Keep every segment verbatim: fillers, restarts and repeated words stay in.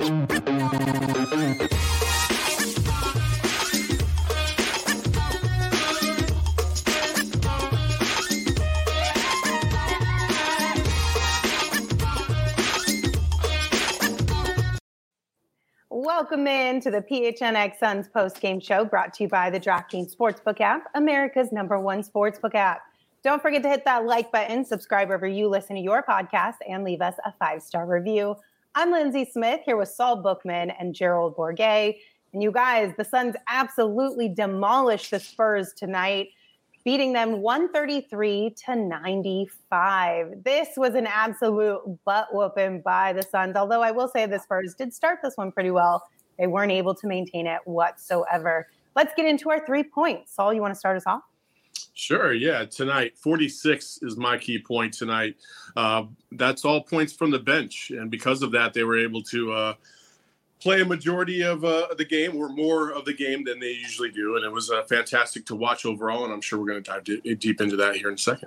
Welcome in to the P H N X Suns post-game show brought to you by the DraftKings Sportsbook app, America's number one sportsbook app. Don't forget to hit that like button, subscribe wherever you listen to your podcast, and leave us a five-star review. I'm Lindsay Smith here with Saul Bookman and Gerald Bourguet. And you guys, the Suns absolutely demolished the Spurs tonight, beating them one thirty-three to ninety-five. This was an absolute butt whooping by the Suns, although I will say the Spurs did start this one pretty well. They weren't able to maintain it whatsoever. Let's get into our three points. Saul, you want to start us off? Sure, yeah. Tonight, forty-six is my key point tonight. Uh, that's all points from the bench, and because of that, they were able to uh, play a majority of uh, the game, or more of the game than they usually do, and it was uh, fantastic to watch overall, and I'm sure we're going to dive d- deep into that here in a second.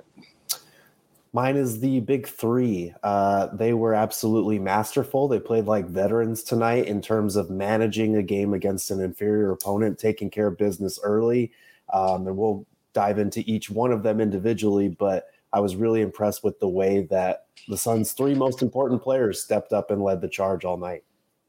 Mine is the big three. Uh, they were absolutely masterful. They played like veterans tonight in terms of managing a game against an inferior opponent, taking care of business early, um, and we'll dive into each one of them individually, but I was really impressed with the way that the Suns' three most important players stepped up and led the charge all night.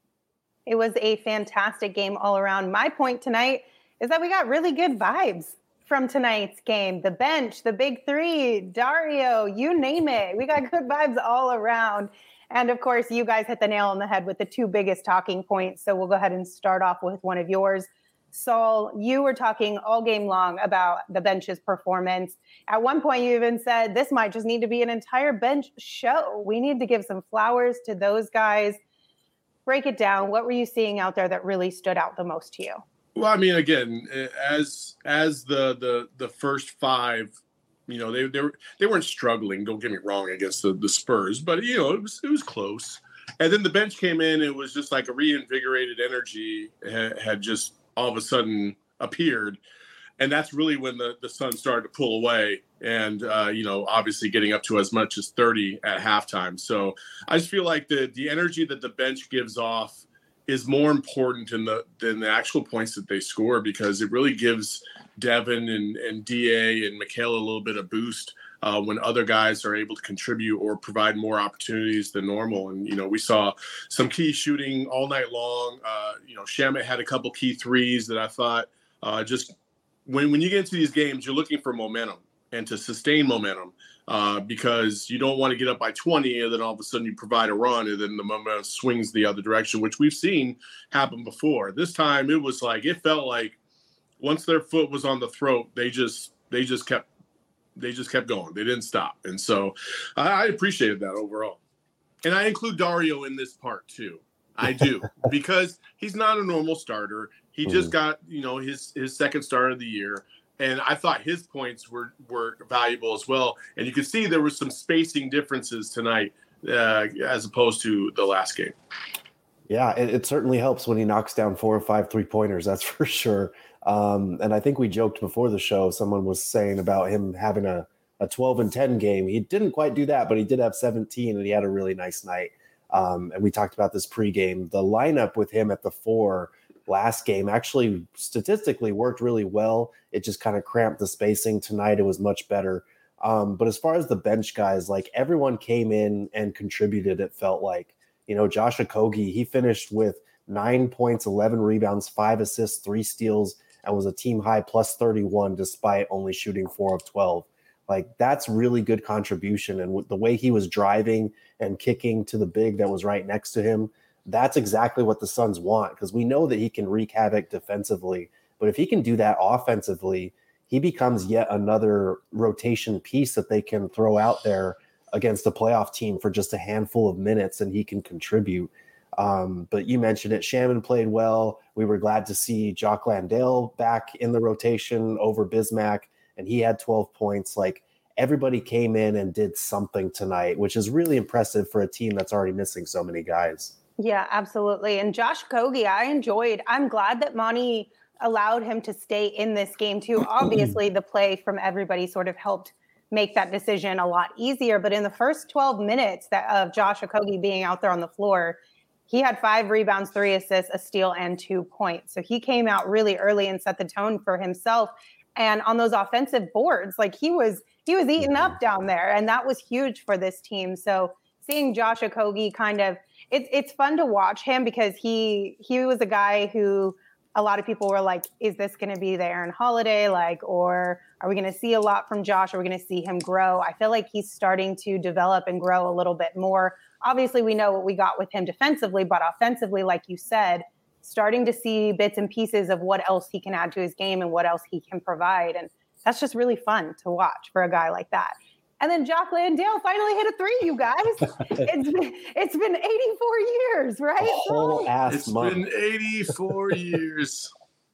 It was a fantastic game all around. My point tonight is that we got really good vibes from tonight's game. The bench, the big three, Dario, you name it. We got good vibes all around. And of course, you guys hit the nail on the head with the two biggest talking points. So we'll go ahead and start off with one of yours. Saul, you were talking all game long about the bench's performance. At one point, you even said this might just need to be an entire bench show. We need to give some flowers to those guys. Break it down. What were you seeing out there that really stood out the most to you? Well, I mean, again, as as the the the first five, you know, they they were they weren't struggling. Don't get me wrong against the, the Spurs, but you know, it was it was close. And then the bench came in. It was just like a reinvigorated energy had, had just all of a sudden appeared. And that's really when the, the Suns started to pull away and, uh, you know, obviously getting up to as much as thirty at halftime. So I just feel like the the energy that the bench gives off is more important in the than the actual points that they score, because it really gives Devin and, and D A and Mikal a little bit of boost uh, when other guys are able to contribute or provide more opportunities than normal. And, you know, we saw some key shooting all night long. Uh, you know, Shamet had a couple key threes that I thought uh, just when, when you get into these games, you're looking for momentum and to sustain momentum uh, because you don't want to get up by twenty and then all of a sudden you provide a run and then the momentum swings the other direction, which we've seen happen before. This time it was like, it felt like once their foot was on the throat, they just, they just kept, they just kept going. They didn't stop. And so I, I appreciated that overall. And I include Dario in this part too. I do, because he's not a normal starter. He just got, you know, his, his second start of the year. And I thought his points were, were valuable as well. And you could see there was some spacing differences tonight uh, as opposed to the last game. Yeah, it, it certainly helps when he knocks down four or five three-pointers, that's for sure. Um, and I think we joked before the show, someone was saying about him having a, a twelve and ten game. He didn't quite do that, but he did have seventeen, and he had a really nice night. Um, and we talked about this pregame. The lineup with him at the four last game actually statistically worked really well. It just kind of cramped the spacing. Tonight it was much better. Um, but as far as the bench guys, like everyone came in and contributed, it felt like. You know, Josh Okogie, he finished with nine points, eleven rebounds, five assists, three steals, and was a team high plus thirty-one despite only shooting four of twelve. Like, that's really good contribution. And the way he was driving and kicking to the big that was right next to him, that's exactly what the Suns want, because we know that he can wreak havoc defensively. But if he can do that offensively, he becomes yet another rotation piece that they can throw out there against a playoff team for just a handful of minutes, and he can contribute. Um, but you mentioned it. Shaman played well. We were glad to see Jock Landale back in the rotation over Bismack, and he had twelve points. Like, everybody came in and did something tonight, which is really impressive for a team that's already missing so many guys. Yeah, absolutely. And Josh Okogie, I enjoyed. I'm glad that Monty allowed him to stay in this game too. Obviously, the play from everybody sort of helped make that decision a lot easier. But in the first twelve minutes that of Josh Okogie being out there on the floor, he had five rebounds, three assists, a steal, and two points. So he came out really early and set the tone for himself. And on those offensive boards, like he was, he was eating mm-hmm. up down there, and that was huge for this team. So seeing Josh Okogie kind of, it's it's fun to watch him because he he was a guy who a lot of people were like, is this going to be the Aaron Holiday, like, or are we going to see a lot from Josh? Are we going to see him grow? I feel like he's starting to develop and grow a little bit more. Obviously, we know what we got with him defensively, but offensively, like you said, starting to see bits and pieces of what else he can add to his game and what else he can provide. And that's just really fun to watch for a guy like that. And then Jock Landale finally hit a three, you guys. It's been, it's been eighty-four years, right? A whole ass It's month. been eighty-four years.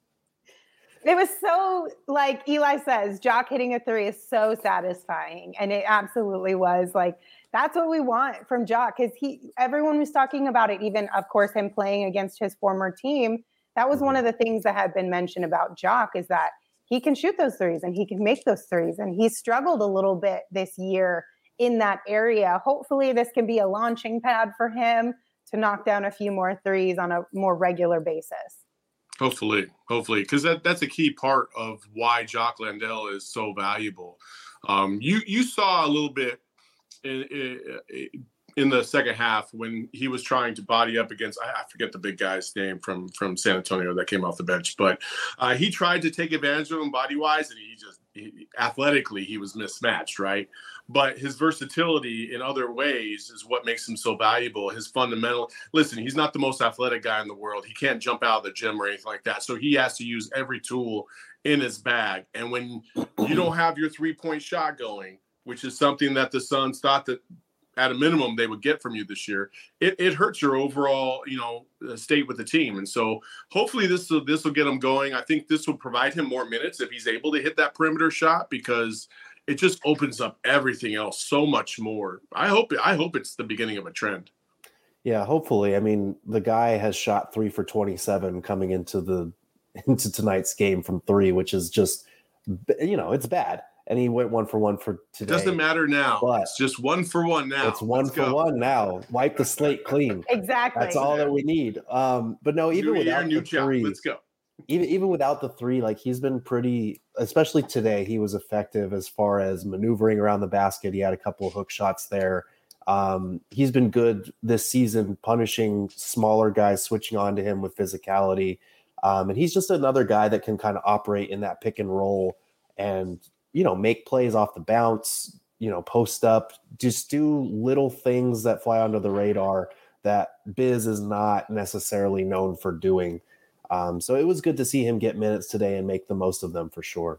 It was so, like Eli says, Jock hitting a three is so satisfying. And it absolutely was. Like, that's what we want from Jock, because he, everyone was talking about it, even, of course, him playing against his former team. That was one of the things that had been mentioned about Jock, is that he can shoot those threes and he can make those threes. And he struggled a little bit this year in that area. Hopefully this can be a launching pad for him to knock down a few more threes on a more regular basis. Hopefully, hopefully, because that, that's a key part of why Jock Landale is so valuable. Um, you you saw a little bit in, in, in the second half when he was trying to body up against, I, I forget the big guy's name from, from San Antonio that came off the bench, but uh, he tried to take advantage of him body-wise, and he just, he, athletically, he was mismatched, right? But his versatility in other ways is what makes him so valuable. His fundamental, listen, he's not the most athletic guy in the world. He can't jump out of the gym or anything like that. So he has to use every tool in his bag. And when you don't have your three-point shot going, which is something that the Suns thought that at a minimum they would get from you this year, it, it hurts your overall, you know, state with the team. And so hopefully this will, this will get him going. I think this will provide him more minutes if he's able to hit that perimeter shot, because it just opens up everything else so much more. I hope, I hope it's the beginning of a trend. Yeah, hopefully. I mean, the guy has shot three for twenty-seven coming into the, into tonight's game from three, which is just, you know, it's bad. And he went one for one for today. It doesn't matter now. But it's just one for one now. It's one Let's for go. one now. Wipe the slate clean. Exactly. That's all that we need. Um, but no, even new without year, new the job. three, Let's go. even even without the three, like he's been pretty, especially today, he was effective as far as maneuvering around the basket. He had a couple of hook shots there. Um, he's been good this season, punishing smaller guys, switching on to him with physicality. Um, and he's just another guy that can kind of operate in that pick and roll and, you know, make plays off the bounce, you know, post up, just do little things that fly under the radar that Biz is not necessarily known for doing. Um, so it was good to see him get minutes today and make the most of them for sure.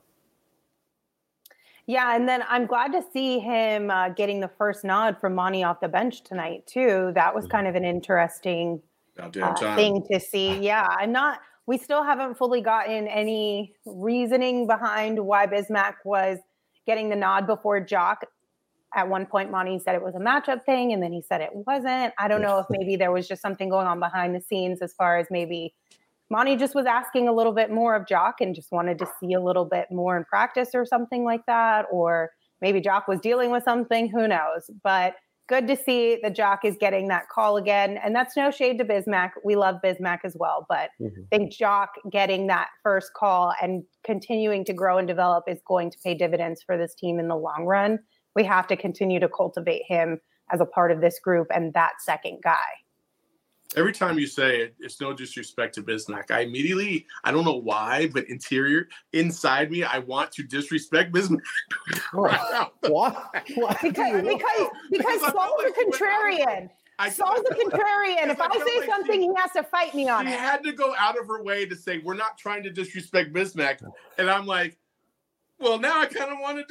Yeah, and then I'm glad to see him uh, getting the first nod from Monty off the bench tonight too. That was kind of an interesting uh, thing to see. Yeah, I'm not. We still haven't fully gotten any reasoning behind why Bismack was getting the nod before Jock. At one point, Monty said it was a matchup thing, and then he said it wasn't. I don't know if maybe there was just something going on behind the scenes as far as maybe Monty just was asking a little bit more of Jock and just wanted to see a little bit more in practice or something like that. Or maybe Jock was dealing with something, who knows? But good to see that Jock is getting that call again. And that's no shade to Bismack. We love Bismack as well. But mm-hmm. I think Jock getting that first call and continuing to grow and develop is going to pay dividends for this team in the long run. We have to continue to cultivate him as a part of this group and that second guy. Every time you say it, it's no disrespect to Bismack, I immediately, I don't know why, but interior, inside me, I want to disrespect Bismack. Right Why? Why? Because, because, because Saul's a contrarian. I, Saul's a contrarian. If I, I say something, she, he has to fight me on she it. She had to go out of her way to say, we're not trying to disrespect Bismack. And I'm like, well, now I kind of want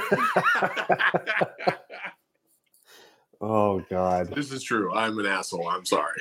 to do it. Oh, God. This is true. I'm an asshole. I'm sorry.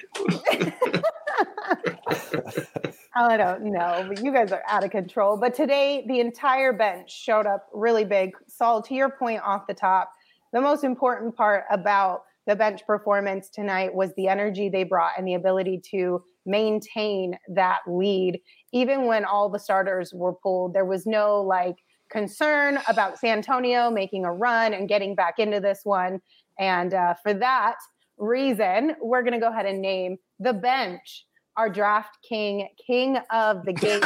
I don't know, but you guys are out of control. But today, the entire bench showed up really big. Saul, to your point off the top, the most important part about the bench performance tonight was the energy they brought and the ability to maintain that lead. Even when all the starters were pulled, there was no, like, concern about San Antonio making a run and getting back into this one. And uh, for that, reason, we're going to go ahead and name the bench our Draft King, king of the game.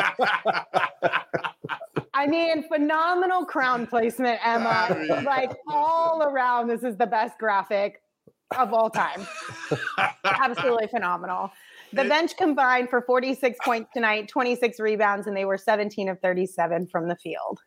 I mean, phenomenal crown placement, Emma. I mean, like all around, this is the best graphic of all time. Absolutely phenomenal. The bench combined for forty-six points tonight, twenty-six rebounds, and they were seventeen of thirty-seven from the field.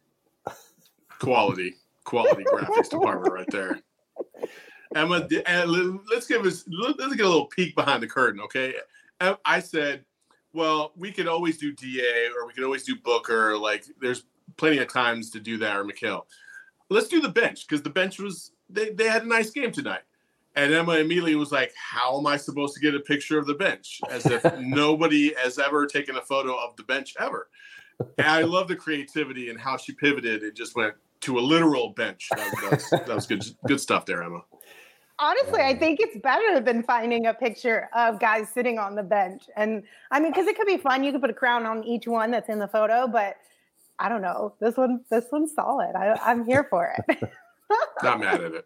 Quality, quality graphics department right there. Emma, let's give us let's get a little peek behind the curtain, okay? I said, well, we could always do D A or we could always do Booker. Like, there's plenty of times to do that, or Mikal. Let's do the bench, because the bench was they, they had a nice game tonight. And Emma immediately was like, how am I supposed to get a picture of the bench? As if nobody has ever taken a photo of the bench ever. And I love the creativity and how she pivoted and just went to a literal bench. That was, that was, that was good, good stuff there, Emma. Honestly, I think it's better than finding a picture of guys sitting on the bench. And I mean, because it could be fun. You could put a crown on each one that's in the photo, but I don't know. This one, this one's solid. I, I'm here for it. Not mad at it.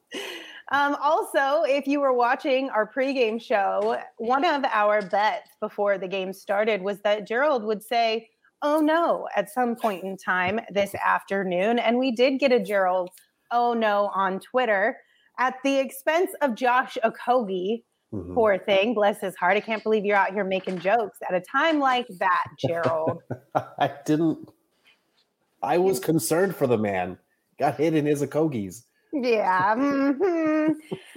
Um, also, if you were watching our pregame show, one of our bets before the game started was that Gerald would say, oh no, at some point in time this afternoon. And we did get a Gerald, oh no, on Twitter at the expense of Josh Okogie. Mm-hmm. Poor thing, bless his heart. I can't believe you're out here making jokes at a time like that, Gerald. I didn't. I was concerned for the man. Got hit in his Okogies. Yeah. Mm-hmm.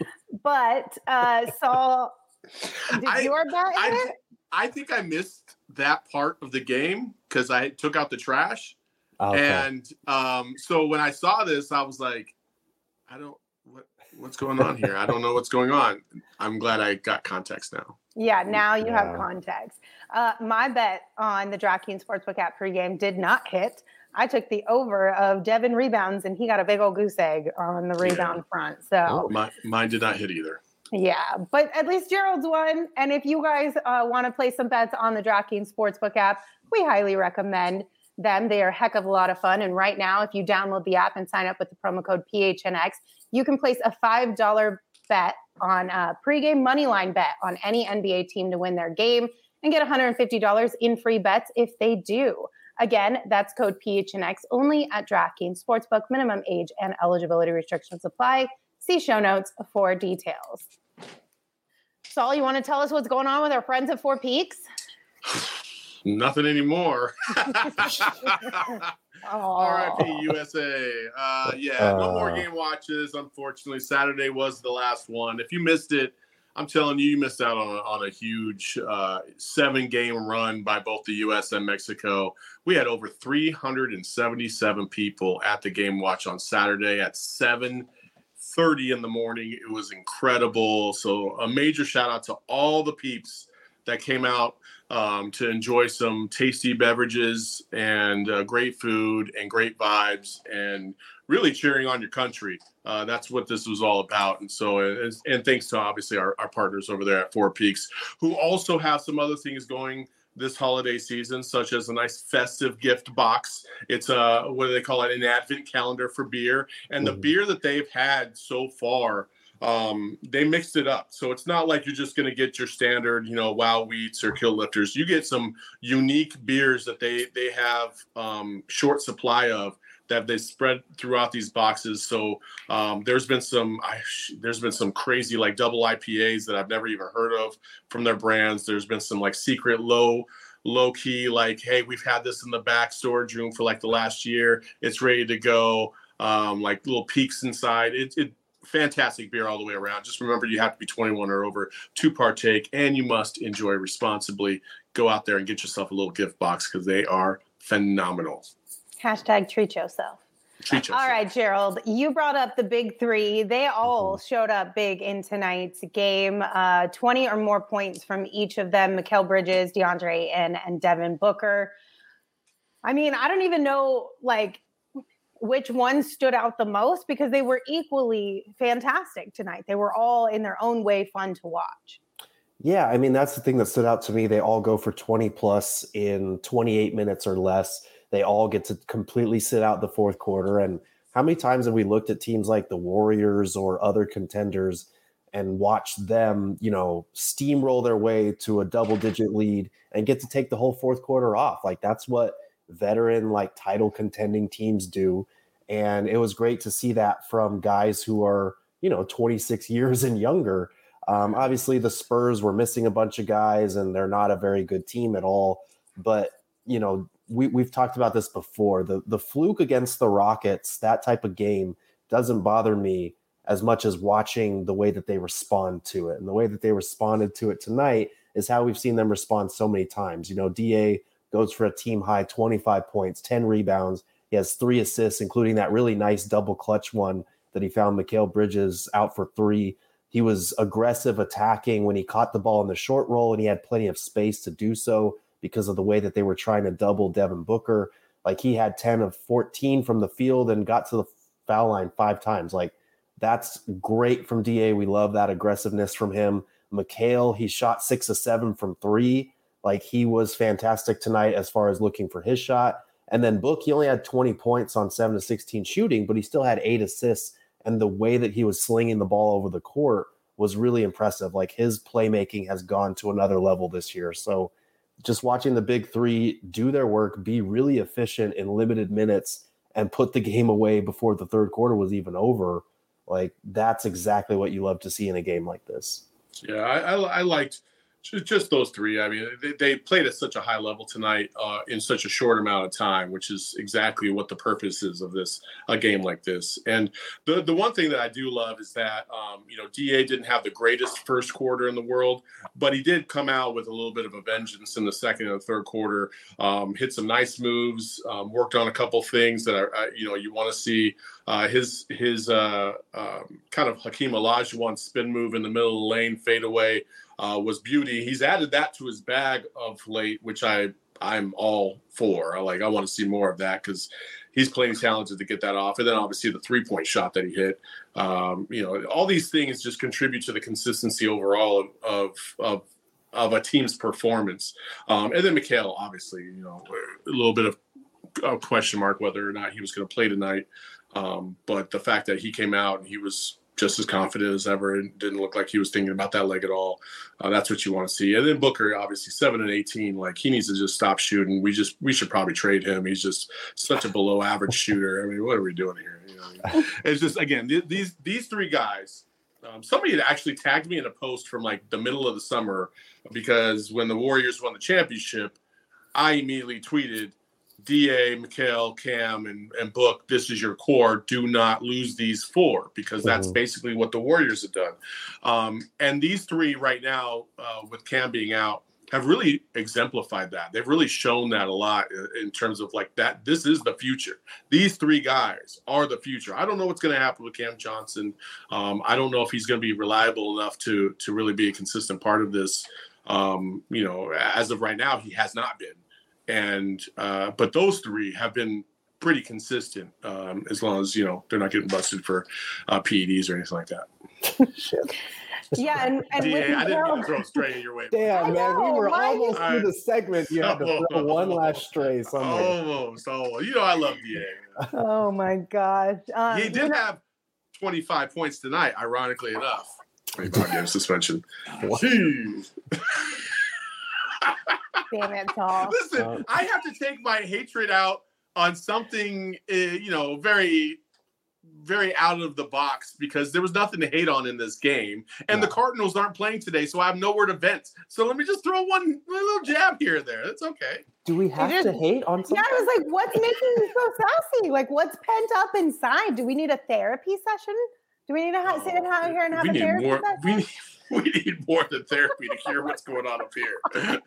But uh, Saul, did I, your bet I, hit? I think I missed that part of the game because I took out the trash. Okay. And um, so when I saw this, I was like, I don't, what, what's going on here? I don't know what's going on. I'm glad I got context now. Yeah, now you yeah. have context. Uh, my bet on the DraftKings Sportsbook app pregame did not hit. I took the over of Devin rebounds, and he got a big old goose egg on the rebound yeah. front. So oh, my, mine did not hit either. Yeah, but at least Gerald's won. And if you guys uh, want to play some bets on the DraftKings Sportsbook app, we highly recommend them. They are a heck of a lot of fun. And right now, if you download the app and sign up with the promo code P H N X, you can place a five dollars bet on a pregame moneyline bet on any N B A team to win their game and get one hundred fifty dollars in free bets if they do. Again, that's code P H N X only at DraftKings Sportsbook. Minimum age and eligibility restrictions apply. See show notes for details. Saul, you want to tell us what's going on with our friends at Four Peaks? Nothing anymore. R I P U S A. Uh, yeah, no more game watches, unfortunately. Saturday was the last one. If you missed it, I'm telling you, you missed out on a, on a huge uh, seven-game run by both the U S and Mexico. We had over three hundred seventy-seven people at the game watch on Saturday at seven thirty in the morning. It was incredible. So a major shout out to all the peeps that came out um, to enjoy some tasty beverages and uh, great food and great vibes and really cheering on your country. Uh, that's what this was all about. And so, and, and thanks to obviously our, our partners over there at Four Peaks, who also have some other things going this holiday season, such as a nice festive gift box. It's a, what do they call it? An advent calendar for beer. And the mm-hmm. beer that they've had so far, um, they mixed it up. So it's not like you're just going to get your standard, you know, Wow Wheats or Kill Lifters. You get some unique beers that they, they have um, short supply of that they spread throughout these boxes. So um, there's been some, I, there's been some crazy like double I P As that I've never even heard of from their brands. There's been some like secret low, low key, like, hey, we've had this in the back storage room for like the last year. It's ready to go. Um, like little peaks inside. It, it fantastic beer all the way around. Just remember, you have to be twenty-one or over to partake, and you must enjoy responsibly. Go out there and get yourself a little gift box because they are phenomenal. Hashtag treat yourself. Treat yourself. All right, Gerald, you brought up the big three. They all mm-hmm. showed up big in tonight's game. Uh, twenty or more points from each of them. Mikal Bridges, DeAndre and, and Devin Booker. I mean, I don't even know, like, which one stood out the most because they were equally fantastic tonight. They were all in their own way fun to watch. Yeah, I mean, that's the thing that stood out to me. They all go for twenty plus in twenty-eight minutes or less. They all get to completely sit out the fourth quarter. And how many times have we looked at teams like the Warriors or other contenders and watch them, you know, steamroll their way to a double digit lead and get to take the whole fourth quarter off. Like that's what veteran, like title contending teams do. And it was great to see that from guys who are, you know, twenty-six years and younger. Um, obviously the Spurs were missing a bunch of guys and they're not a very good team at all. But, you know, we, we've talked about this before. The, the fluke against the Rockets, that type of game doesn't bother me as much as watching the way that they respond to it. And the way that they responded to it tonight is how we've seen them respond so many times. You know, D A goes for a team high twenty-five points, ten rebounds. He has three assists, including that really nice double clutch one that he found Mikal Bridges out for three. He was aggressive attacking when he caught the ball in the short roll, and he had plenty of space to do so because of the way that they were trying to double Devin Booker. Like he had ten of fourteen from the field and got to the foul line five times. Like that's great from D A. We love that aggressiveness from him. Mikal, he shot six of seven from three. Like he was fantastic tonight as far as looking for his shot. And then Book, he only had twenty points on seven to sixteen shooting, but he still had eight assists. And the way that he was slinging the ball over the court was really impressive. Like his playmaking has gone to another level this year. So just watching the big three do their work, be really efficient in limited minutes, and put the game away before the third quarter was even over. Like that's exactly what you love to see in a game like this. Yeah, I, I, I liked just those three. I mean, they, they played at such a high level tonight uh, in such a short amount of time, which is exactly what the purpose is of this, a game like this. And the the one thing that I do love is that, um, you know, D A didn't have the greatest first quarter in the world, but he did come out with a little bit of a vengeance in the second and the third quarter, um, hit some nice moves, um, worked on a couple things that are, uh, you know, you want to see. Uh, his his uh, um, kind of Hakeem Olajuwon spin move in the middle of the lane, fade away, uh, was beauty. He's added that to his bag of late, which I I'm all for. I like I want to see more of that because he's playing talented to get that off. And then obviously the three point shot that he hit. Um, you know, all these things just contribute to the consistency overall of of, of of a team's performance. Um, and then Mikal, obviously, you know, a little bit of a question mark whether or not he was going to play tonight. Um, but the fact that he came out and he was just as confident as ever and didn't look like he was thinking about that leg at all, uh, that's what you want to see. And then Booker, obviously seven and eighteen, like he needs to just stop shooting. We just we should probably trade him. He's just such a below average shooter. I mean, what are we doing here? You know, it's just again th- these these three guys. Um, somebody had actually tagged me in a post from like the middle of the summer because when the Warriors won the championship, I immediately tweeted, D A, Mikal, Cam, and, and Book, this is your core. Do not lose these four because that's mm-hmm. basically what the Warriors have done. Um, and these three right now, uh, with Cam being out, have really exemplified that. They've really shown that a lot in, in terms of like that. This is the future. These three guys are the future. I don't know what's going to happen with Cam Johnson. Um, I don't know if he's going to be reliable enough to to really be a consistent part of this. Um, you know, as of right now, he has not been. And uh, but those three have been pretty consistent um, as long as, you know, they're not getting busted for uh, P E Ds or anything like that. Shit. Yeah, and, and D A, with I didn't Mikal, mean to throw stray your way. Damn, man, we were why almost you- through the segment. You had to throw one last stray. So I'm like, Almost, almost. You know I love D A. oh my gosh. Um, He did have twenty-five points tonight, ironically enough. twenty-five game suspension. Jeez. Damn it, Paul. Listen, Uh, I have to take my hatred out on something, uh, you know, very, very out of the box because there was nothing to hate on in this game. And yeah. the Cardinals aren't playing today, so I have nowhere to vent. So let me just throw one little jab here and there. That's okay. Do we have just- to hate on something? Yeah, I was like, what's making you so sassy? Like, what's pent up inside? Do we need a therapy session? Do we need to ha- sit out here and have we a need therapy more, session? we need, we need more than therapy to hear what's going on up here.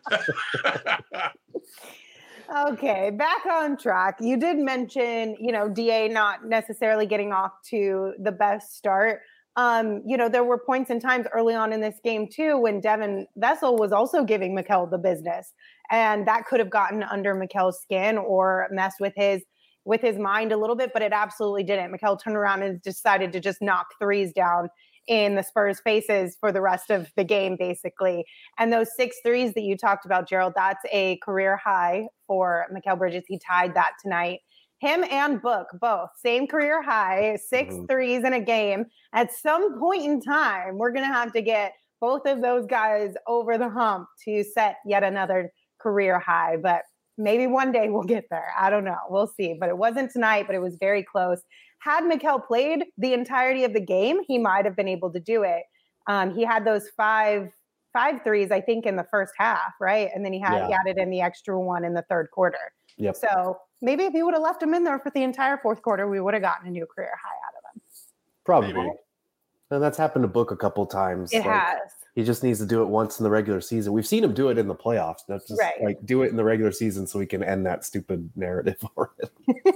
Okay, back on track. You did mention, you know, D A not necessarily getting off to the best start. Um, you know, there were points and times early on in this game too when Devin Vessel was also giving Mikal the business, and that could have gotten under Mikal's skin or messed with his with his mind a little bit, but it absolutely didn't. Mikal turned around and decided to just knock threes down in the Spurs' faces for the rest of the game, basically. And those six threes that you talked about, Gerald, that's a career high for Mikal Bridges. He tied that tonight him and Book, both same career high, six mm-hmm. threes in a game. At some point in time, we're going to have to get both of those guys over the hump to set yet another career high. But maybe one day we'll get there. I don't know. We'll see. But it wasn't tonight, but it was very close. Had Mikal played the entirety of the game, he might have been able to do it. Um, he had those five five threes, I think, in the first half, right? And then he had yeah. he added in the extra one in the third quarter. Yep. So maybe if he would have left him in there for the entire fourth quarter, we would have gotten a new career high out of him. Probably. Maybe. And that's happened to Book a couple times. It like, has. He just needs to do it once in the regular season. We've seen him do it in the playoffs. Not just right. like do it in the regular season so we can end that stupid narrative already.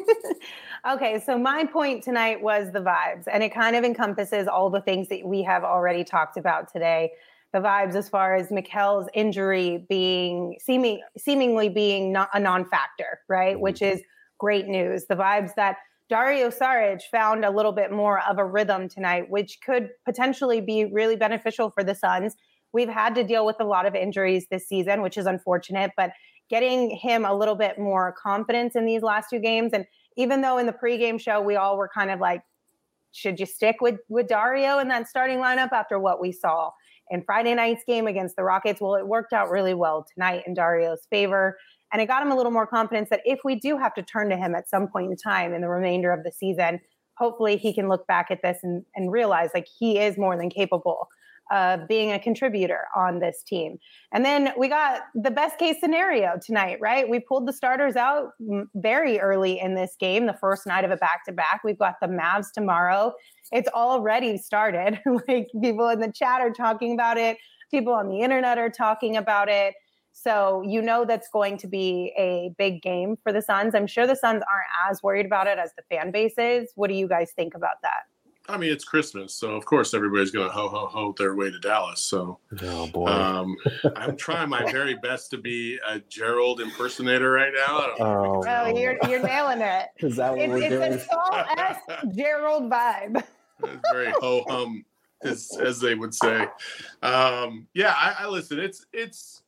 Okay, so my point tonight was the vibes, and it kind of encompasses all the things that we have already talked about today. The vibes as far as Mikal's injury being seeming seemingly being not a non-factor, right? Mm-hmm. Which is great news. The vibes that Dario Saric found a little bit more of a rhythm tonight, which could potentially be really beneficial for the Suns. We've had to deal with a lot of injuries this season, which is unfortunate, but getting him a little bit more confidence in these last two games. And even though in the pregame show, we all were kind of like, should you stick with, with Dario in that starting lineup after what we saw in Friday night's game against the Rockets? Well, it worked out really well tonight in Dario's favor. And it got him a little more confidence that if we do have to turn to him at some point in time in the remainder of the season, hopefully he can look back at this and, and realize like he is more than capable of being a contributor on this team. And then we got the best case scenario tonight, right? We pulled the starters out very early in this game, the first night of a back-to-back. We've got the Mavs tomorrow. It's already started. Like people in the chat are talking about it. People on the internet are talking about it. So you know that's going to be a big game for the Suns. I'm sure the Suns aren't as worried about it as the fan base is. What do you guys think about that? I mean, it's Christmas, so of course everybody's going to ho ho ho their way to Dallas. So, oh boy, um, I'm trying my very best to be a Gerald impersonator right now. I don't know oh, well, no. you're you're nailing it. Is that what it's, we're it's doing? a Saul-esque Gerald vibe. It's very ho hum, as as they would say. Um, yeah, I, I listen. It's it's.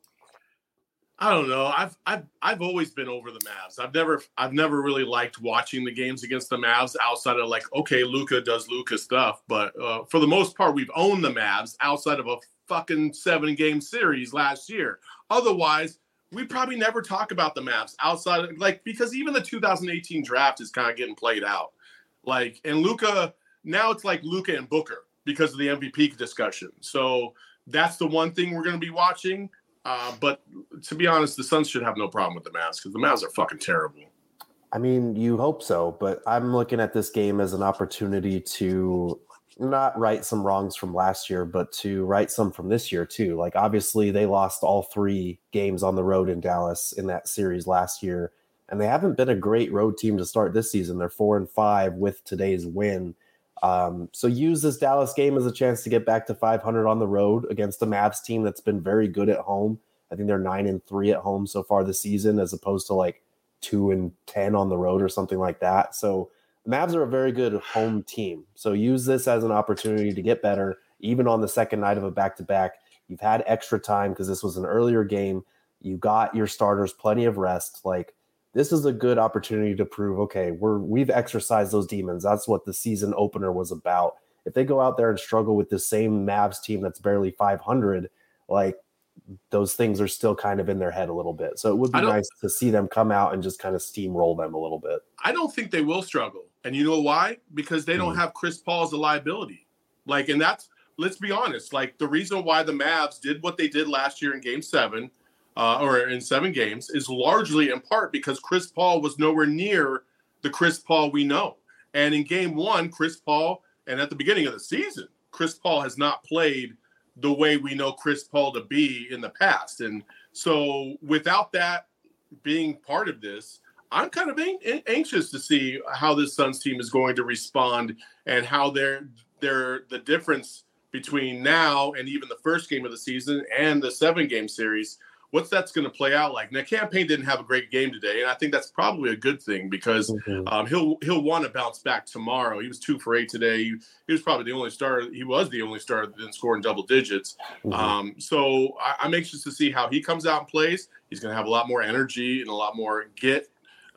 I don't know. I've I've I've always been over the Mavs. I've never I've never really liked watching the games against the Mavs outside of like, okay, Luka does Luka stuff, but uh, for the most part, we've owned the Mavs outside of a fucking seven game series last year. Otherwise, we probably never talk about the Mavs outside of, like, because even the two thousand eighteen draft is kind of getting played out. Like, and Luka, now it's like Luka and Booker because of the M V P discussion. So that's the one thing we're going to be watching. Uh, but to be honest, the Suns should have no problem with the Mavs because the Mavs are fucking terrible. I mean, you hope so, but I'm looking at this game as an opportunity to not right some wrongs from last year, but to right some from this year too. Like, obviously they lost all three games on the road in Dallas in that series last year, and they haven't been a great road team to start this season. They're four and five with today's win. Um, so use this Dallas game as a chance to get back to five hundred on the road against a Mavs team that's been very good at home. I think they're nine and three at home so far this season, as opposed to like two and ten on the road or something like that. So the Mavs are a very good home team. So use this as an opportunity to get better, even on the second night of a back-to-back. You've had extra time because this was an earlier game. You got your starters plenty of rest. Like, this is a good opportunity to prove, okay, we're, we've exercised those demons. That's what the season opener was about. If they go out there and struggle with the same Mavs team that's barely five hundred, like, those things are still kind of in their head a little bit. So it would be nice to see them come out and just kind of steamroll them a little bit. I don't think they will struggle. And you know why? Because they don't mm. have Chris Paul as a liability. Like, and that's, let's be honest, like the reason why the Mavs did what they did last year in game seven, Uh, or in seven games, is largely in part because Chris Paul was nowhere near the Chris Paul we know. And in game one, Chris Paul, and at the beginning of the season, Chris Paul has not played the way we know Chris Paul to be in the past. And so without that being part of this, I'm kind of an- anxious to see how this Suns team is going to respond and how they're, they're the difference between now and even the first game of the season and the seven game series. What's that's going to play out like? Now, Cam Payne didn't have a great game today, and I think that's probably a good thing because mm-hmm. um, he'll he'll want to bounce back tomorrow. He was two for eight today. He, he was probably the only starter. He was the only starter that didn't score in double digits. Mm-hmm. Um, so I, I'm anxious to see how he comes out and plays. He's going to have a lot more energy and a lot more get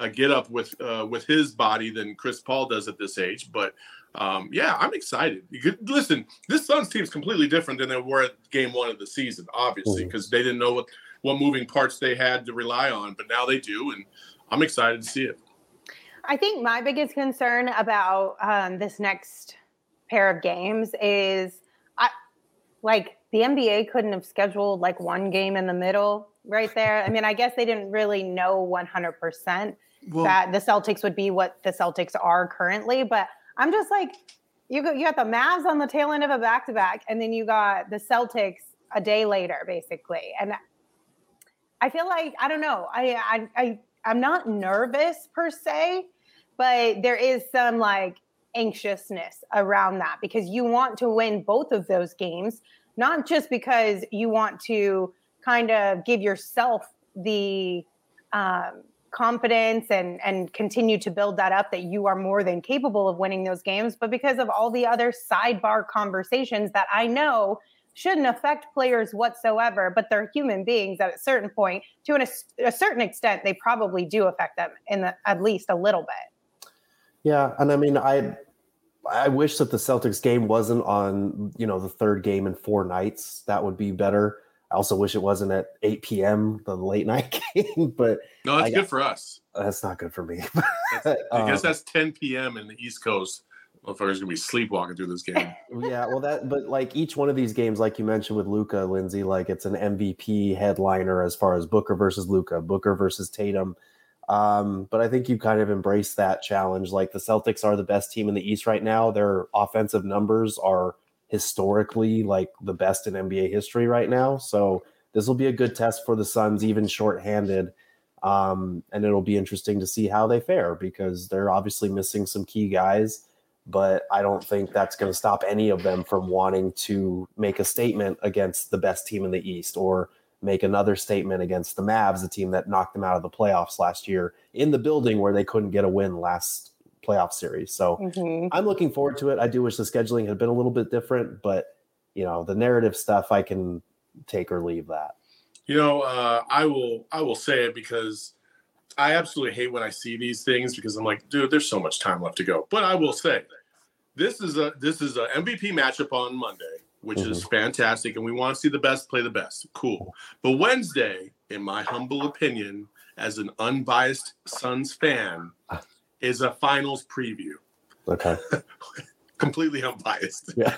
a get up with uh, with his body than Chris Paul does at this age. But um, yeah, I'm excited. You could, listen, this Suns team is completely different than they were at game one of the season, obviously, because mm-hmm. they didn't know what, what moving parts they had to rely on, but now they do, and I'm excited to see it. I think my biggest concern about um, this next pair of games is, I like the N B A couldn't have scheduled like one game in the middle right there. I mean, I guess they didn't really know one hundred percent well, that the Celtics would be what the Celtics are currently, but I'm just like, you got, you got the Mavs on the tail end of a back-to-back, and then you got the Celtics a day later, basically. And I feel like, I don't know, I, I, I, I'm not nervous per se, but there is some like anxiousness around that because you want to win both of those games, not just because you want to kind of give yourself the um, confidence and, and continue to build that up that you are more than capable of winning those games, but because of all the other sidebar conversations that I know shouldn't affect players whatsoever, but they're human beings at a certain point. To an, a certain extent, they probably do affect them in the, at least a little bit. Yeah, and I mean, I I wish that the Celtics game wasn't on, you know, the third game in four nights. That would be better. I also wish it wasn't at eight p.m., the late night game. But no, that's I, good for us. That's not good for me. That's, I guess um, that's ten p.m. in the East Coast. Motherfuckers gonna be sleepwalking through this game. Yeah, well, that but like each one of these games, like you mentioned with Luka, Lindsay, like it's an M V P headliner as far as Booker versus Luka, Booker versus Tatum. Um, but I think you kind of embrace that challenge. Like the Celtics are the best team in the East right now. Their offensive numbers are historically like the best in N B A history right now. So this will be a good test for the Suns, even shorthanded. Um, and it'll be interesting to see how they fare because they're obviously missing some key guys. But I don't think that's going to stop any of them from wanting to make a statement against the best team in the East or make another statement against the Mavs, the team that knocked them out of the playoffs last year in the building where they couldn't get a win last playoff series. So mm-hmm. I'm looking forward to it. I do wish the scheduling had been a little bit different, but you know, the narrative stuff, I can take or leave that. You know, uh, I will, I will say it because I absolutely hate when I see these things because I'm like, dude, there's so much time left to go. But I will say, this is a this is a M V P matchup on Monday, which mm-hmm. is fantastic, and we want to see the best play the best. Cool. But Wednesday, in my humble opinion, as an unbiased Suns fan, is a finals preview. Okay. Completely unbiased. Yeah.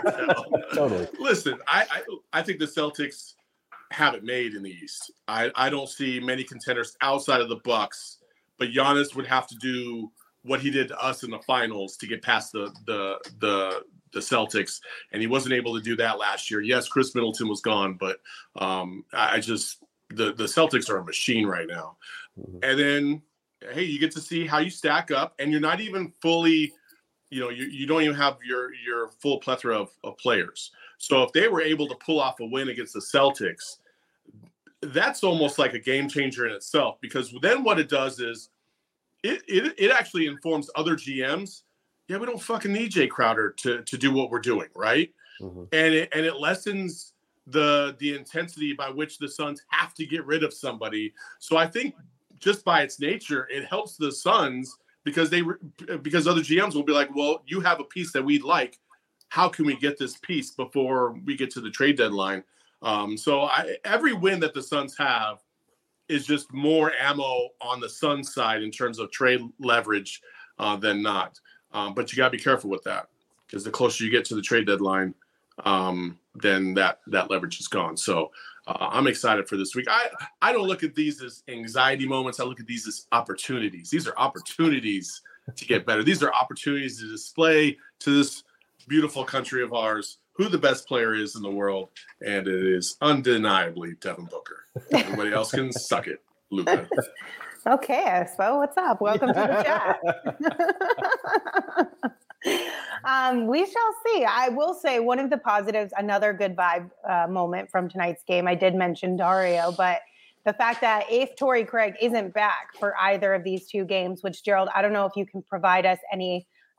Totally. Listen, I, I I think the Celtics have it made in the East. I, I don't see many contenders outside of the Bucks, but Giannis would have to do what he did to us in the finals to get past the the the the Celtics, and he wasn't able to do that last year. Yes, Chris Middleton was gone, but um, I just the the Celtics are a machine right now. Mm-hmm. And then, hey, you get to see how you stack up, and you're not even fully, you know, you, you don't even have your your full plethora of, of players. So if they were able to pull off a win against the Celtics, that's almost like a game changer in itself, because then what it does is it it, it actually informs other G Ms. Yeah, we don't fucking need Jay Crowder to, to do what we're doing, right? Mm-hmm. And it and it lessens the the intensity by which the Suns have to get rid of somebody. So I think just by its nature, it helps the Suns because they because other G Ms will be like, well, you have a piece that we'd like. How can we get this piece before we get to the trade deadline? Um, so I, every win that the Suns have is just more ammo on the Suns side in terms of trade leverage uh, than not. Um, but you got to be careful with that, because the closer you get to the trade deadline, um, then that that leverage is gone. So uh, I'm excited for this week. I, I don't look at these as anxiety moments. I look at these as opportunities. These are opportunities to get better. These are opportunities to display to this beautiful country of ours who the best player is in the world, and it is undeniably Devin Booker. Everybody else can suck it, Luka. Okay, Espo, what's up? Welcome to the chat. um, we shall see. I will say one of the positives, another good vibe uh, moment from tonight's game. I did mention Dario, but the fact that if Torrey Craig isn't back for either of these two games, which Gerald, I don't know if you can provide us any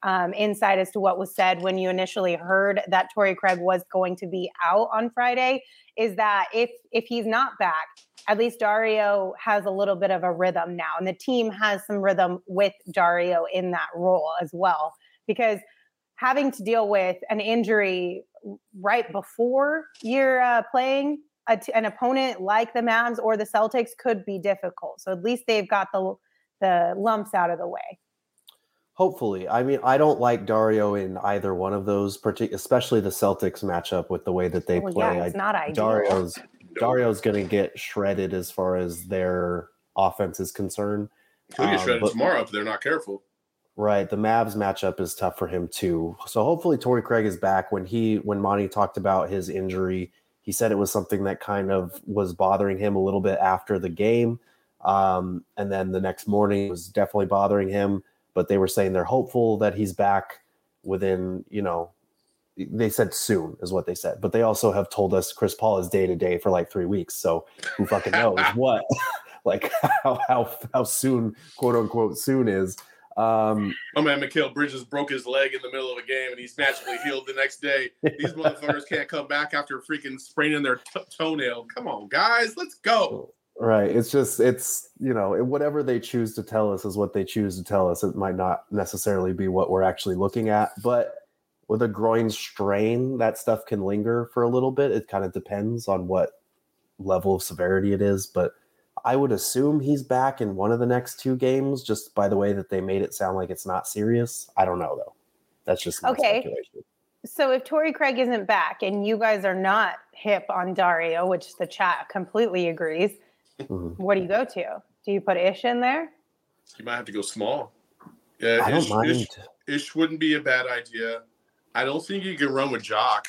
um, insight as to what was said when you initially heard that Torrey Craig was going to be out on Friday, is that if if he's not back, at least Dario has a little bit of a rhythm now. And the team has some rhythm with Dario in that role as well. Because having to deal with an injury right before you're uh, playing a t- an opponent like the Mavs or the Celtics could be difficult. So at least they've got the the lumps out of the way. Hopefully. I mean, I don't like Dario in either one of those, partic- especially the Celtics matchup with the way that they well, play. Yeah, it's I, not ideal. Dario's Dario's going to get shredded as far as their offense is concerned. He'll get shredded um, but, tomorrow if they're not careful. Right. The Mavs matchup is tough for him too. So hopefully Torrey Craig is back. When he when Monty talked about his injury, he said it was something that kind of was bothering him a little bit after the game. Um, and then the next morning it was definitely bothering him. But they were saying they're hopeful that he's back within, you know, they said soon is what they said. But they also have told us Chris Paul is day to day for like three weeks. So who fucking knows what, like how, how, how soon, quote unquote, soon is. Um, My man Mikal Bridges broke his leg in the middle of a game and he's magically healed the next day. These motherfuckers can't come back after freaking spraining their t- toenail. Come on, guys, let's go. Right. It's just, it's, you know, whatever they choose to tell us is what they choose to tell us. It might not necessarily be what we're actually looking at, but with a groin strain, that stuff can linger for a little bit. It kind of depends on what level of severity it is, but I would assume he's back in one of the next two games, just by the way that they made it sound like it's not serious. I don't know, though. That's just my okay. speculation. So if Torrey Craig isn't back and you guys are not hip on Dario, which the chat completely agrees, mm-hmm. what do you go to? Do you put Ish in there? You might have to go small. Yeah, I don't Ish, mind. Ish, Ish wouldn't be a bad idea. I don't think you can run with Jock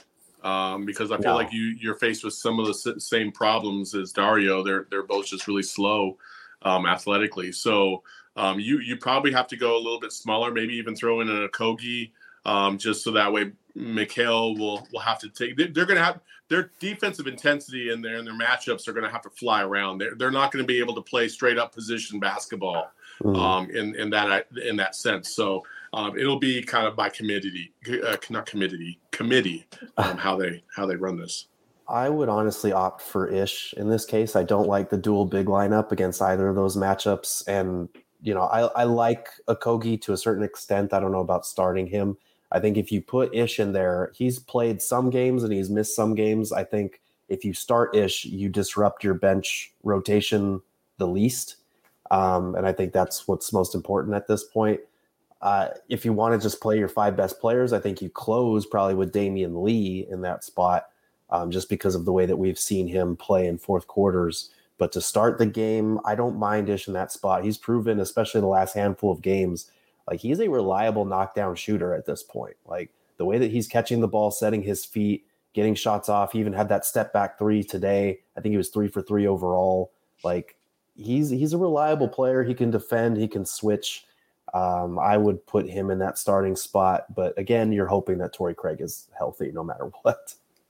um, because I feel no. like you you're faced with some of the same problems as Dario. They're they're both just really slow um, athletically. So um, you you probably have to go a little bit smaller. Maybe even throw in a Kogi um, just so that way Mikal will will have to take. They're, they're going to have their defensive intensity in there and their matchups are going to have to fly around. They're they're not going to be able to play straight up position basketball mm. um, in in that in that sense. So. Um, it'll be kind of by committee, uh, not committee, committee, um, how they how they run this. I would honestly opt for Ish in this case. I don't like the dual big lineup against either of those matchups, and you know I, I like Okogie to a certain extent. I don't know about starting him. I think if you put Ish in there, he's played some games and he's missed some games. I think if you start Ish, you disrupt your bench rotation the least, um, and I think that's what's most important at this point. Uh, if you want to just play your five best players, I think you close probably with Damian Lee in that spot, um, just because of the way that we've seen him play in fourth quarters. But to start the game, I don't mind Ish in that spot. He's proven, especially the last handful of games, like he's a reliable knockdown shooter at this point. Like the way that he's catching the ball, setting his feet, getting shots off. He even had that step back three today. I think he was three for three overall. Like he's he's a reliable player. He can defend. He can switch. Um, I would put him in that starting spot. But again, you're hoping that Torrey Craig is healthy no matter what.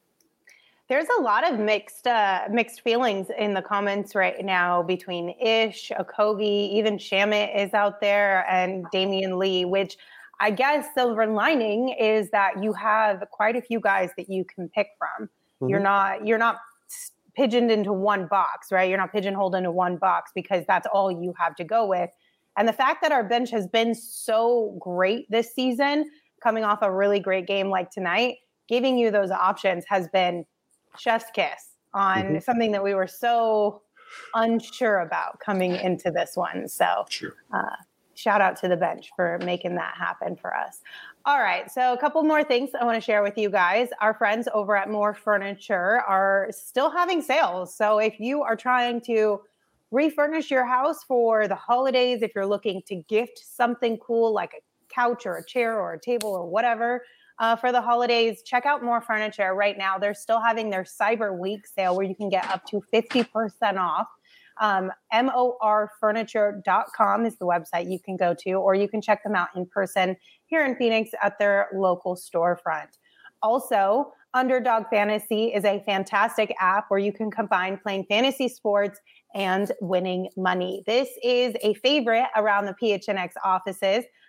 There's a lot of mixed uh, mixed feelings in the comments right now between Ish, Okogie, even Shamit is out there, and Damian Lee, which I guess silver lining is that you have quite a few guys that you can pick from. Mm-hmm. You're not you're not pigeoned into one box, right? You're not pigeonholed into one box because that's all you have to go with. And the fact that our bench has been so great this season, coming off a really great game like tonight, giving you those options has been chef's kiss on mm-hmm. something that we were so unsure about coming into this one. So sure. uh, shout out to the bench for making that happen for us. All right. So a couple more things I want to share with you guys. Our friends over at More Furniture are still having sales. So if you are trying to refurnish your house for the holidays, if you're looking to gift something cool like a couch or a chair or a table or whatever uh, for the holidays, check out More Furniture right now. They're still having their Cyber Week sale where you can get up to fifty percent off. Um, M O R furniture dot com is the website you can go to, or you can check them out in person here in Phoenix at their local storefront. Also, Underdog Fantasy is a fantastic app where you can combine playing fantasy sports and winning money. This is a favorite around the P H N X offices.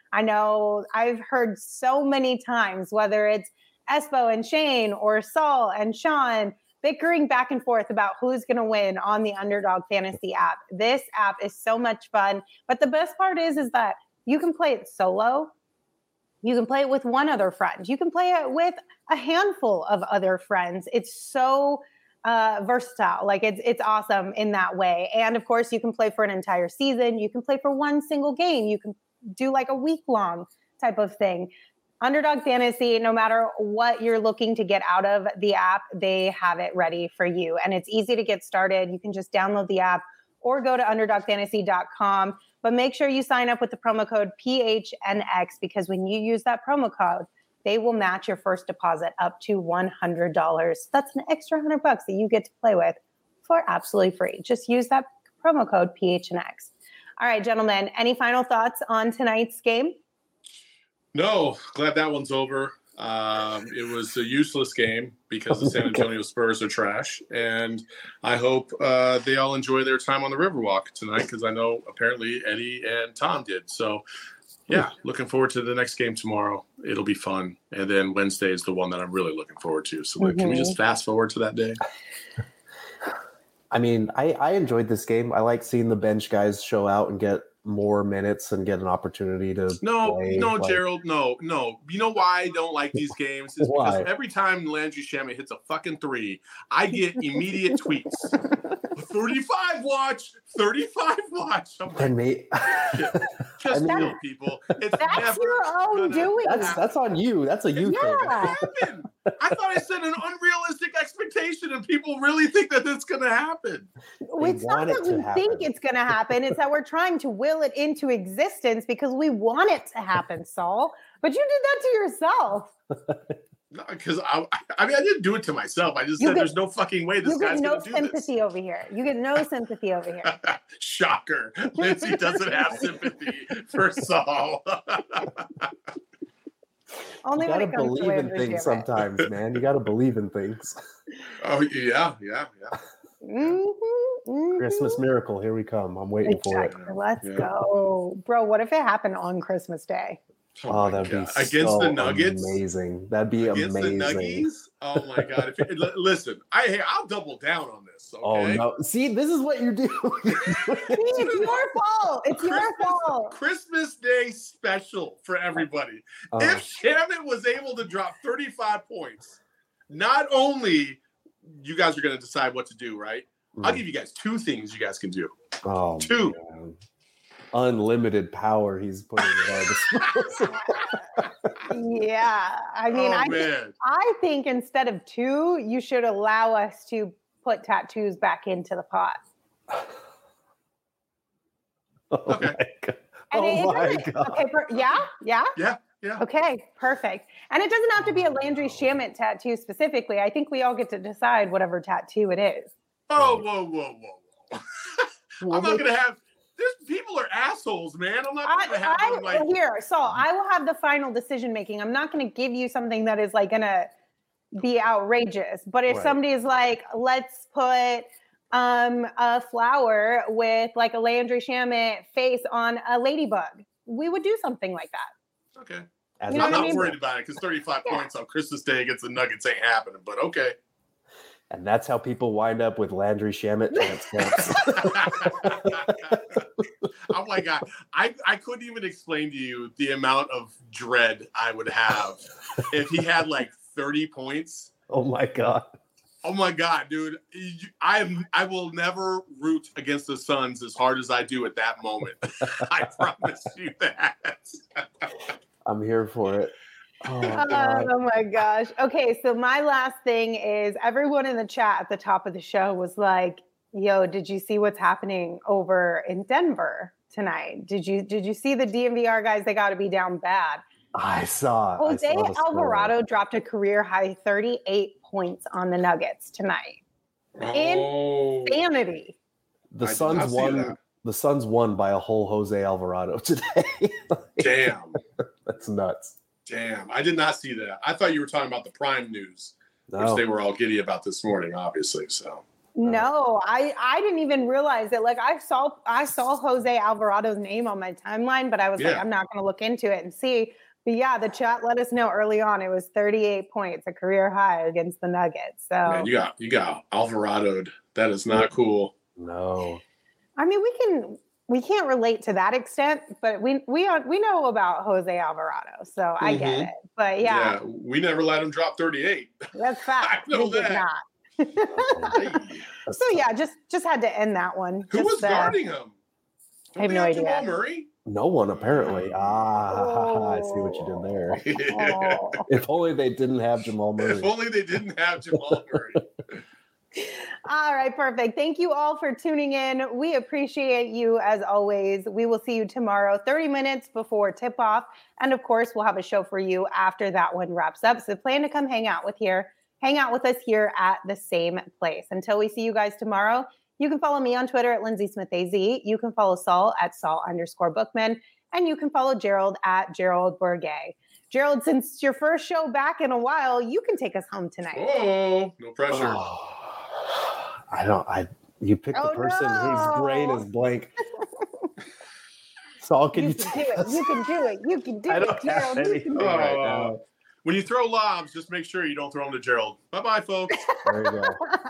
I know I've heard so many times, whether it's Espo and Shane or Saul and Sean bickering back and forth about who's going to win on the Underdog Fantasy app. This app is so much fun. But the best part is, is that you can play it solo. You can play it with one other friend. You can play it with a handful of other friends. It's so uh, versatile. Like it's it's awesome in that way. And of course, you can play for an entire season. You can play for one single game. You can do like a week long type of thing. Underdog Fantasy, no matter what you're looking to get out of the app, they have it ready for you. And it's easy to get started. You can just download the app or go to underdog fantasy dot com. But make sure you sign up with the promo code P H N X, because when you use that promo code, they will match your first deposit up to one hundred dollars. That's an extra one hundred bucks that you get to play with for absolutely free. Just use that promo code P H N X. All right, gentlemen, any final thoughts on tonight's game? No, glad that one's over. Um, it was a useless game because the San Antonio Spurs are trash. And I hope uh, they all enjoy their time on the Riverwalk tonight, because I know apparently Eddie and Tom did. So, yeah, looking forward to the next game tomorrow. It'll be fun. And then Wednesday is the one that I'm really looking forward to. So mm-hmm. Can we just fast forward to that day? I mean, I, I enjoyed this game. I like seeing the bench guys show out and get more minutes and get an opportunity to no play. no like, Gerald no no you know why I don't like these games is because every time Landry Shamet hits a fucking three, I get immediate tweets. thirty-five watch thirty-five watch. I'm like, me, just I mean, real people. It's that's never your own doing. That's, that's on you. That's a you yeah. thing. I thought I set an unrealistic expectation, and people really think that it's going to happen. They it's not that we happen. think it's going to happen. It's that we're trying to will it into existence because we want it to happen, Saul. But you did that to yourself. No, because I, I mean, I didn't do it to myself. I just you said get, there's no fucking way this guy's no going to do this. You get no sympathy over here. You get no sympathy over here. Shocker. Lindsay doesn't have sympathy for Saul. Only you when gotta it comes believe to in things sometimes, man. You gotta believe in things. Oh yeah, yeah, yeah. Mm-hmm, mm-hmm. Christmas miracle, here we come. I'm waiting exactly. for it. Let's yeah. go, bro. What if it happened on Christmas Day? Oh, oh that'd God. be against so the Nuggets. Amazing. That'd be against amazing. The Nuggies? Oh my God! If it, listen, I hey, I'll double down on this. Okay? Oh no! See, this is what you do. It's your fault. It's Christmas, your fault. Christmas Day special for everybody. Oh. If Shamet was able to drop thirty-five points, not only you guys are going to decide what to do, right? Mm. I'll give you guys two things you guys can do. Oh, two. Man. Unlimited power he's putting at our disposal. Yeah, I mean, oh, I, man. I think instead of two, you should allow us to put tattoos back into the pot. Oh okay. My God. And oh it, my it God. Okay, per, yeah, yeah, yeah, yeah. Okay, perfect. And it doesn't have to be a Landry Shamet tattoo specifically. I think we all get to decide whatever tattoo it is. Oh, whoa, whoa, whoa, whoa! I'm not gonna have. There's people are assholes, man. I'm not going to have I, them like here. So I will have the final decision making. I'm not going to give you something that is like going to be outrageous. But if right. somebody is like, let's put um, a flower with like a Landry Shamet face on a ladybug, we would do something like that. Okay. As I'm not I mean? worried about it because thirty-five yeah. points on Christmas Day against the Nuggets ain't happening. But okay. And that's how people wind up with Landry Shamet transcripts. Oh my God. I, I couldn't even explain to you the amount of dread I would have if he had like thirty points. Oh my God. Oh my God, dude. I am I will never root against the Suns as hard as I do at that moment. I promise you that. I'm here for it. Oh, uh, oh my gosh. Okay, so my last thing is everyone in the chat at the top of the show was like, yo, did you see what's happening over in Denver tonight? Did you did you see the D N V R guys? They got to be down bad. I saw. Jose I saw Alvarado dropped a career high thirty-eight points on the Nuggets tonight. Oh. Insanity. The I Suns won. The Suns won by a whole Jose Alvarado today. Damn. That's nuts. Damn, I did not see that. I thought you were talking about the Prime News, no. which they were all giddy about this morning, obviously. So No, I I didn't even realize it. Like I saw I saw Jose Alvarado's name on my timeline, but I was Yeah. like, I'm not going to look into it and see. But yeah, the chat let us know early on it was thirty-eight points, a career high against the Nuggets. So Man, you got you got Alvarado. That is not cool. No. I mean, we can we can't relate to that extent, but we we are, we know about Jose Alvarado, so I get Mhm. it. But yeah, Yeah, we never let him drop thirty-eight. that's fact. I know we did that. not. Hey. That's So tough. yeah, just just had to end that one. Who Just, was uh, guarding him? I have Don't no they idea. Jamal Murray? No one apparently. Ah, I see what you did there. Oh. If only they didn't have Jamal Murray. If only they didn't have Jamal Murray. All right, perfect. Thank you all for tuning in. We appreciate you as always. We will see you tomorrow, thirty minutes before tip off. And of course, we'll have a show for you after that one wraps up. So plan to come hang out with here, hang out with us here at the same place. Until we see you guys tomorrow, you can follow me on Twitter at Lindsay Smith A Z. You can follow Saul at Saul underscore Bookman. And you can follow Gerald at Gerald Bourget. Gerald, since it's your first show back in a while, you can take us home tonight. Oh, no pressure. Oh, I don't. I. You picked Oh, the person no. whose brain is blank. Saul, can You you, can take do it. us? You can do it. You can do I it, don't have Gerald. You anything can do it. right Oh. now. When you throw lobs, just make sure you don't throw them to Gerald. Bye-bye, folks. There you go.